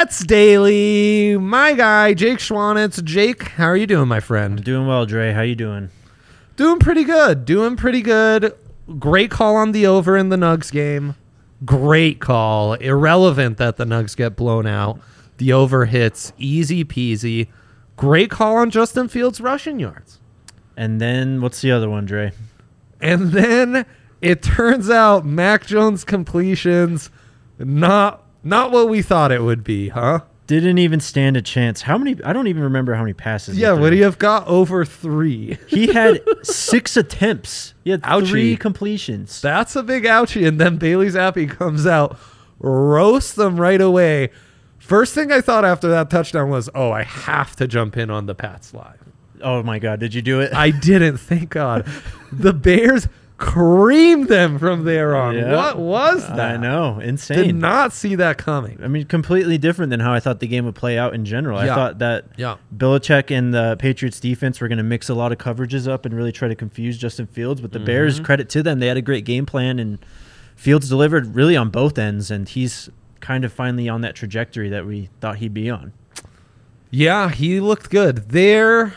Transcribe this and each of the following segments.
Jets Daily. My guy, Jake Schwanitz. Jake, how are you doing, my friend? I'm doing well, Dre. How you doing? Doing pretty good. Great call on the over in the Nugs game. Great call. Irrelevant that the Nugs get blown out. The over hits. Easy peasy. Great call on Justin Fields' rushing yards. And then what's the other one, Dre? And then it turns out Mac Jones completions, not what we thought it would be, huh? Didn't even stand a chance. How many? I don't even remember how many passes. Yeah, would he have got over 3? He had 6 attempts. He had Ouchie. 3 completions. That's a big ouchie. And then Bailey Zappi comes out, roasts them right away. First thing I thought after that touchdown was, oh, I have to jump in on the Pats live. Oh, my God. Did you do it? I didn't, thank God. The Bears creamed them from there on. Yeah. What was that? I know. Insane. Did not see that coming. I mean, completely different than how I thought the game would play out in general. Yeah. I thought that Belichick and the Patriots defense were going to mix a lot of coverages up and really try to confuse Justin Fields. But the Bears, credit to them, they had a great game plan, and Fields delivered really on both ends, and he's kind of finally on that trajectory that we thought he'd be on. Yeah, he looked good. There,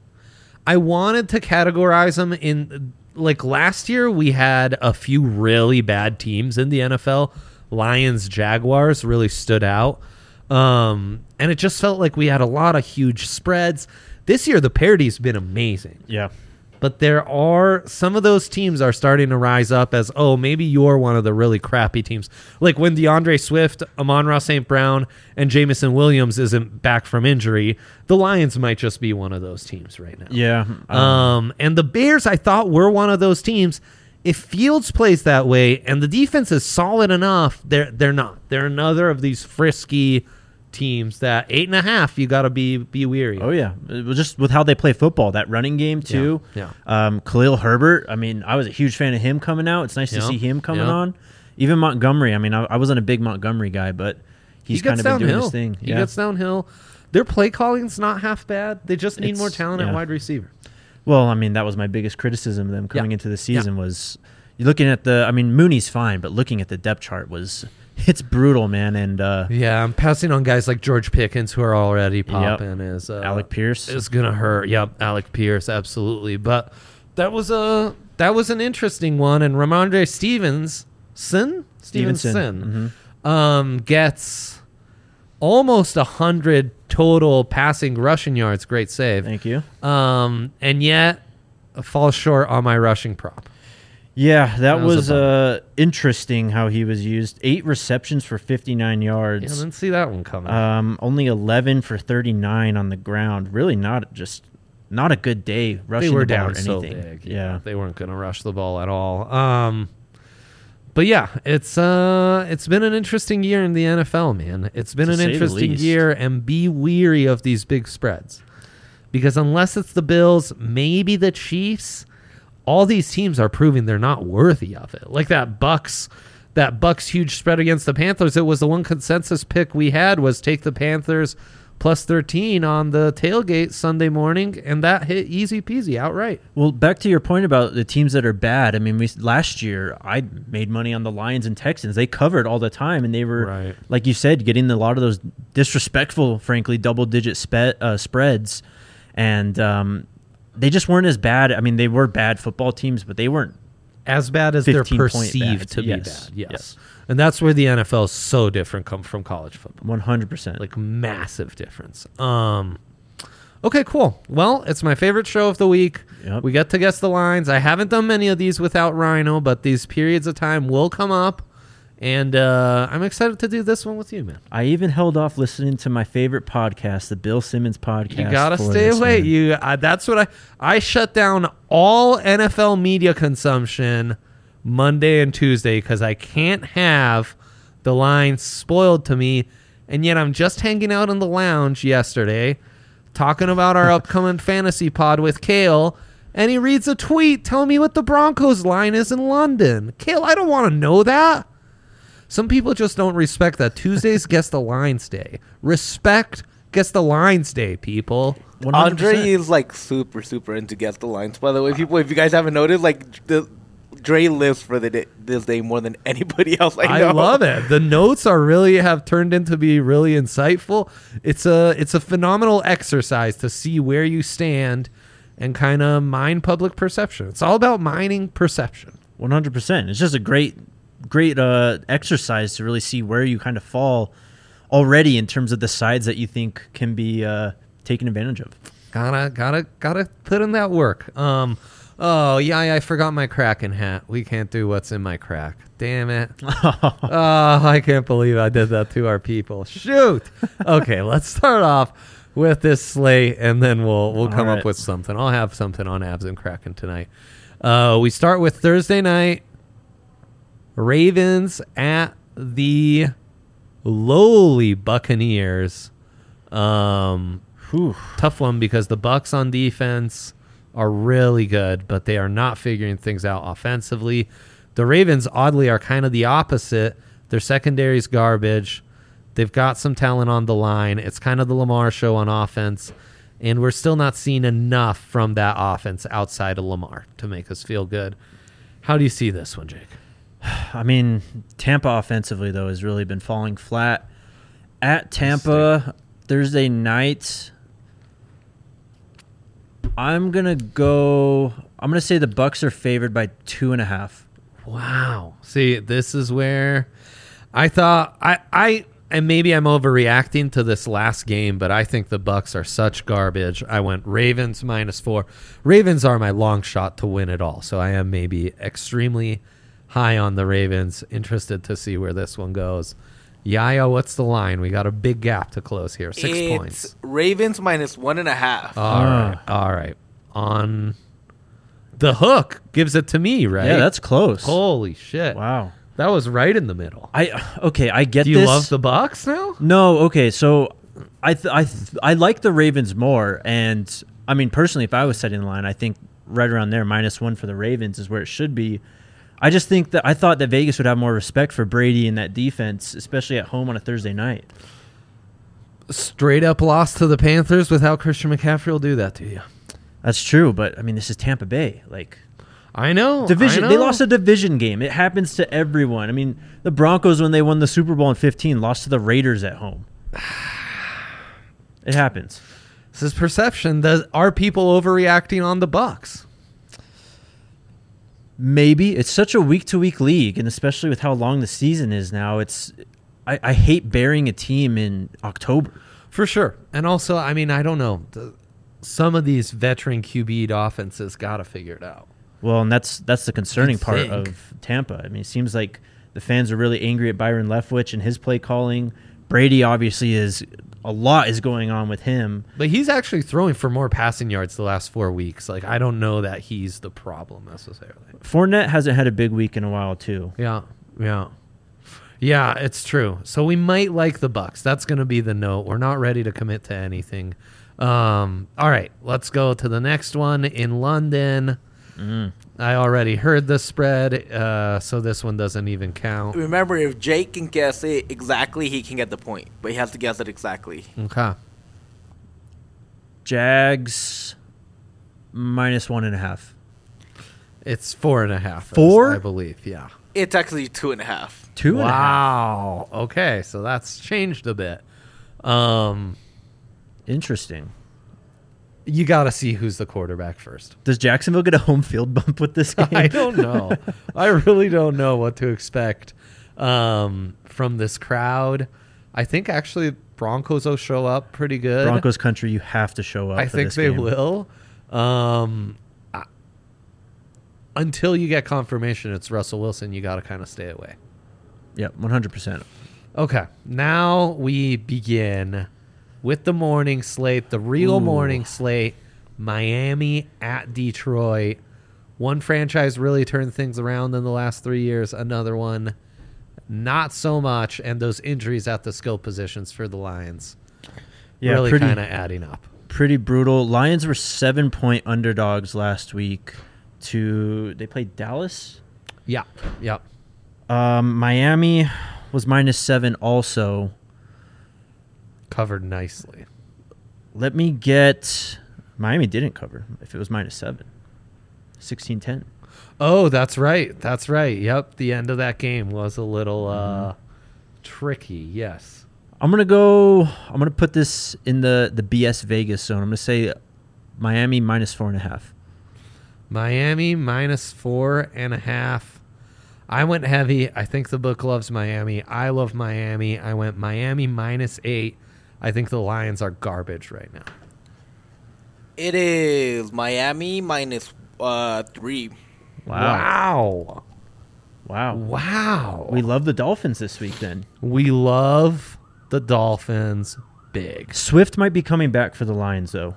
I wanted to categorize him in... Like last year, we had a few really bad teams in the NFL. Lions, Jaguars really stood out. And it just felt like we had a lot of huge spreads. This year, the parity's been amazing. Yeah. But there are some of those teams are starting to rise up as, oh, maybe you're one of the really crappy teams. Like when DeAndre Swift, Amon-Ra St. Brown, and Jamison Williams isn't back from injury, the Lions might just be one of those teams right now. Yeah. And the Bears, I thought, were one of those teams. If Fields plays that way and the defense is solid enough, they're not. They're another of these frisky teams that 8.5 you got to be weary. Oh yeah, it was just with how they play football, that running game too. Khalil Herbert, I mean, I was a huge fan of him coming out. It's nice to see him coming on. Even Montgomery, I mean, I wasn't a big Montgomery guy, but he's kind of been doing his thing. He gets downhill. Their play calling's not half bad. They just need more talent at wide receiver. Well, I mean, that was my biggest criticism of them coming into the season was you're looking at I mean, Mooney's fine, but looking at the depth chart it's brutal, man. And I'm passing on guys like George Pickens who are already popping. Alec Pierce is gonna hurt. Yep, Alec Pierce, absolutely. But that was an interesting one. And Ramondre Stevenson gets almost 100 total passing rushing yards. Great save. Thank you. And yet falls short on my rushing prop. Yeah, that was interesting how he was used. 8 receptions for 59 yards. Yeah, I didn't see that one coming. Only 11 for 39 on the ground. Really not a good day rushing they were the ball down or so anything. big. Yeah. They weren't going to rush the ball at all. But yeah, it's been an interesting year in the NFL, man. It's been an interesting year, and be weary of these big spreads. Because unless it's the Bills, maybe the Chiefs, all these teams are proving they're not worthy of it. Like that Bucks huge spread against the Panthers. It was the one consensus pick we had was take the Panthers plus 13 on the tailgate Sunday morning, and that hit easy peasy outright. Well, back to your point about the teams that are bad. I mean, last year I made money on the Lions and Texans. They covered all the time, and they were, like you said, getting a lot of those disrespectful, frankly, double-digit spreads, and they just weren't as bad. I mean, they were bad football teams, but they weren't as bad as they're perceived to be bad. Yes. And that's where the NFL is so different from college football. 100%. Like massive difference. Okay, cool. Well, it's my favorite show of the week. Yep. We get to guess the lines. I haven't done many of these without Rhino, but these periods of time will come up. And I'm excited to do this one with you, man. I even held off listening to my favorite podcast, the Bill Simmons podcast. You gotta stay away. That's what I shut down all NFL media consumption Monday and Tuesday because I can't have the line spoiled to me. And yet I'm just hanging out in the lounge yesterday talking about our upcoming fantasy pod with Kale, and he reads a tweet telling me what the Broncos line is in London. Kale, I don't want to know that. Some people just don't respect that. Tuesdays Guess the Lines Day. Respect Guess the Lines Day, people. 100%. Andre is like super into Guess the Lines, by the way. People, if you guys haven't noticed, like Dre lives for this day more than anybody else I know. I love it. The notes have turned into be really insightful. It's a phenomenal exercise to see where you stand and kind of mine public perception. It's all about mining perception. 100%. It's just a great exercise to really see where you kind of fall already in terms of the sides that you think can be taken advantage of. Gotta put in that work. Oh yeah, I forgot my Kraken hat. We can't do what's in my crack. Damn it. Oh, I can't believe I did that to our people. Shoot. Okay, let's start off with this slate, and then we'll come up with something. I'll have something on Avs and Kraken tonight. We start with Thursday night. Ravens at the lowly Buccaneers. Tough one because the Bucs on defense are really good, but they are not figuring things out offensively. The Ravens, oddly, are kind of the opposite. Their secondary's garbage. They've got some talent on the line. It's kind of the Lamar show on offense, and we're still not seeing enough from that offense outside of Lamar to make us feel good. How do you see this one, Jake? I mean, Tampa offensively, though, has really been falling flat. At Tampa, Thursday night, I'm going to say the Bucs are favored by 2.5. Wow. See, this is where I thought and maybe I'm overreacting to this last game, but I think the Bucs are such garbage. I went Ravens -4. Ravens are my long shot to win it all, so I am maybe extremely high on the Ravens. Interested to see where this one goes. Yaya, what's the line? We got a big gap to close here. 6 points. It's Ravens -1.5. All right. On the hook gives it to me, right? Yeah, that's close. Holy shit. Wow. That was right in the middle. I get this. Do you love the Bucs now? No, okay. So I like the Ravens more, and I mean personally, if I was setting the line, I think right around there, -1 for the Ravens is where it should be. I just think that I thought that Vegas would have more respect for Brady and that defense, especially at home on a Thursday night. Straight up loss to the Panthers without Christian McCaffrey will do that to you. That's true, but I mean, this is Tampa Bay. Like, I know. Division. They lost a division game. It happens to everyone. I mean, the Broncos, when they won the Super Bowl in 2015, lost to the Raiders at home. It happens. This is perception. Are people overreacting on the Bucs? Maybe. It's such a week-to-week league, and especially with how long the season is now, I hate burying a team in October. For sure. And also, I mean, I don't know. Some of these veteran QB'd offenses got to figure it out. Well, and that's the concerning part of Tampa. I mean, it seems like the fans are really angry at Byron Leftwich and his play calling. Brady obviously a lot is going on with him. But he's actually throwing for more passing yards the last 4 weeks. Like, I don't know that he's the problem necessarily. Fournette hasn't had a big week in a while, too. Yeah, it's true. So we might like the Bucs. That's going to be the note. We're not ready to commit to anything. All right, let's go to the next one in London. I already heard the spread, so this one doesn't even count. Remember, if Jake can guess it exactly, he can get the point, but he has to guess it exactly. Okay. Jags -1.5. It's 4.5. 4? I believe, yeah. It's actually 2.5. 2.5. Wow. Okay, so that's changed a bit. Interesting. You got to see who's the quarterback first. Does Jacksonville get a home field bump with this game? I don't know. I really don't know what to expect from this crowd. I think actually Broncos will show up pretty good. Broncos country, you have to show up. I think they will. Until you get confirmation it's Russell Wilson, you got to kind of stay away. Yep, 100%. Okay, now we begin with the morning slate, the real morning slate. Miami at Detroit. One franchise really turned things around in the last 3 years. Another one, not so much. And those injuries at the skill positions for the Lions really kind of adding up. Pretty brutal. Lions were 7-point underdogs last week. They played Dallas? Yeah. Yep. Miami was -7 also. Covered nicely. Let me get... Miami didn't cover if it was -7. 16-10. Oh, that's right. That's right. Yep. The end of that game was a little tricky. Yes. I'm going to put this in the BS Vegas zone. I'm going to say Miami -4.5. Miami -4.5. I went heavy. I think the book loves Miami. I love Miami. I went Miami -8. I think the Lions are garbage right now. It is Miami -3. Wow. Wow. We love the Dolphins this week then. We love the Dolphins big. Swift might be coming back for the Lions, though.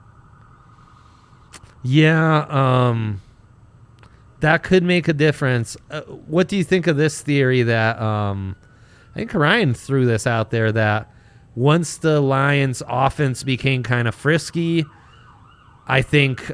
Yeah, that could make a difference. What do you think of this theory that I think Ryan threw this out there, that once the Lions offense became kind of frisky, I think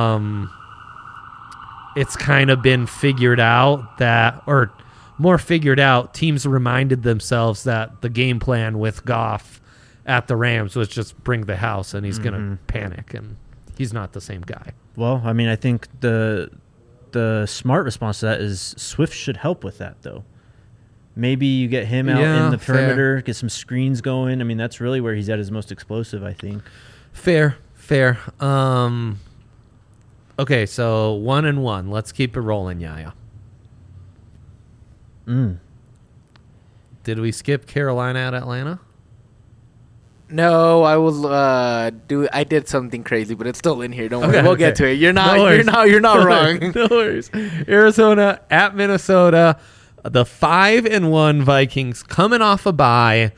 it's kind of been figured out that, or more figured out, teams reminded themselves that the game plan with Goff at the Rams was just bring the house, and he's going to panic, and he's not the same guy. Well, I mean, I think the smart response to that is Swift should help with that, though. Maybe you get him out in the perimeter, get some screens going. I mean, that's really where he's at his most explosive, I think. Fair. Okay, so 1-1. Let's keep it rolling, Yaya. Did we skip Carolina at Atlanta? No, I was I did something crazy, but it's still in here. Don't worry, we'll get to it. You're not wrong. No worries. Arizona at Minnesota. The 5-1 Vikings coming off a bye.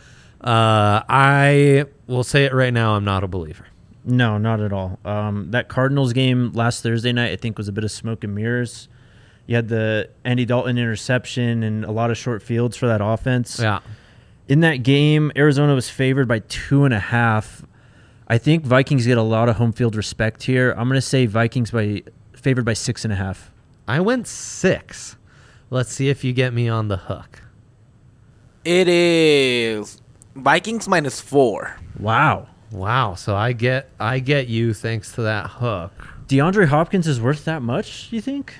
I will say it right now, I'm not a believer. No, not at all. That Cardinals game last Thursday night, I think, was a bit of smoke and mirrors. You had the Andy Dalton interception and a lot of short fields for that offense. Yeah. In that game, Arizona was favored by 2.5. I think Vikings get a lot of home field respect here. I'm going to say Vikings favored by 6.5. I went 6. Let's see if you get me on the hook. It is Vikings -4. Wow. So I get you thanks to that hook. DeAndre Hopkins is worth that much, you think?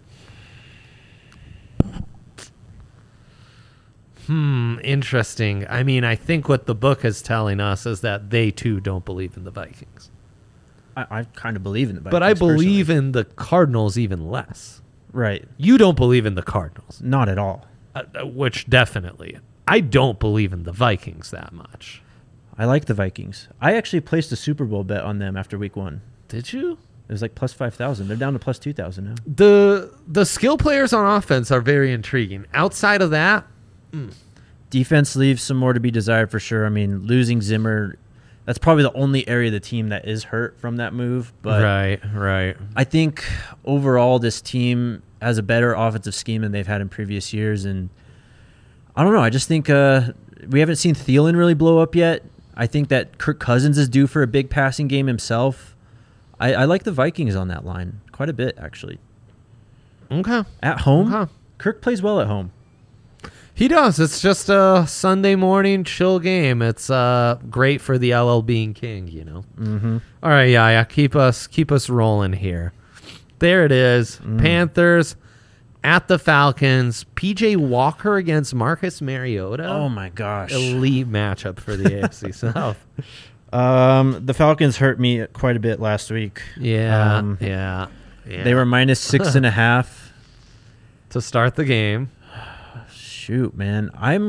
Interesting. I mean, I think what the book is telling us is that they too don't believe in the Vikings. I kind of believe in the Vikings. But I believe personally. in the Cardinals even less. Right. You don't believe in the Cardinals. Not at all. Which definitely. I don't believe in the Vikings that much. I like the Vikings. I actually placed a Super Bowl bet on them after week 1. Did you? It was like plus 5,000. They're down to plus 2,000 now. The skill players on offense are very intriguing. Outside of that, defense leaves some more to be desired for sure. I mean, losing Zimmer, that's probably the only area of the team that is hurt from that move. But right. I think overall this team has a better offensive scheme than they've had in previous years. And I don't know. I just think we haven't seen Thielen really blow up yet. I think that Kirk Cousins is due for a big passing game himself. I like the Vikings on that line quite a bit, actually. Okay. At home, Okay. Kirk plays well at home. He does. It's just a Sunday morning chill game. It's great for the LL Being King, you know. Mm-hmm. All right, yeah. Keep us rolling here. There it is. Panthers at the Falcons. PJ Walker against Marcus Mariota. Oh my gosh! Elite matchup for the AFC South. The Falcons hurt me quite a bit last week. Yeah. They were minus 6.5 to start the game. Shoot, man.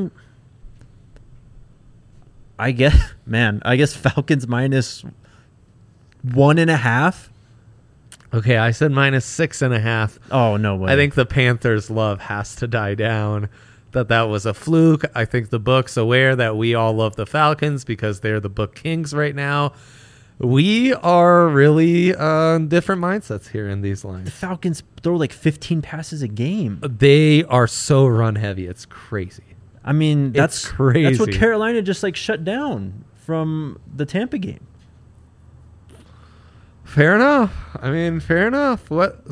I guess Falcons minus 1.5. Okay, I said minus 6.5. Oh, no way. I think the Panthers' love has to die down. That was a fluke. I think the book's aware that we all love the Falcons because they're the book kings right now. We are really on different mindsets here in these lines. The Falcons throw like 15 passes a game. They are so run heavy. It's crazy. I mean, It's crazy. That's what Carolina just like shut down from the Tampa game. Fair enough. Fair enough. What?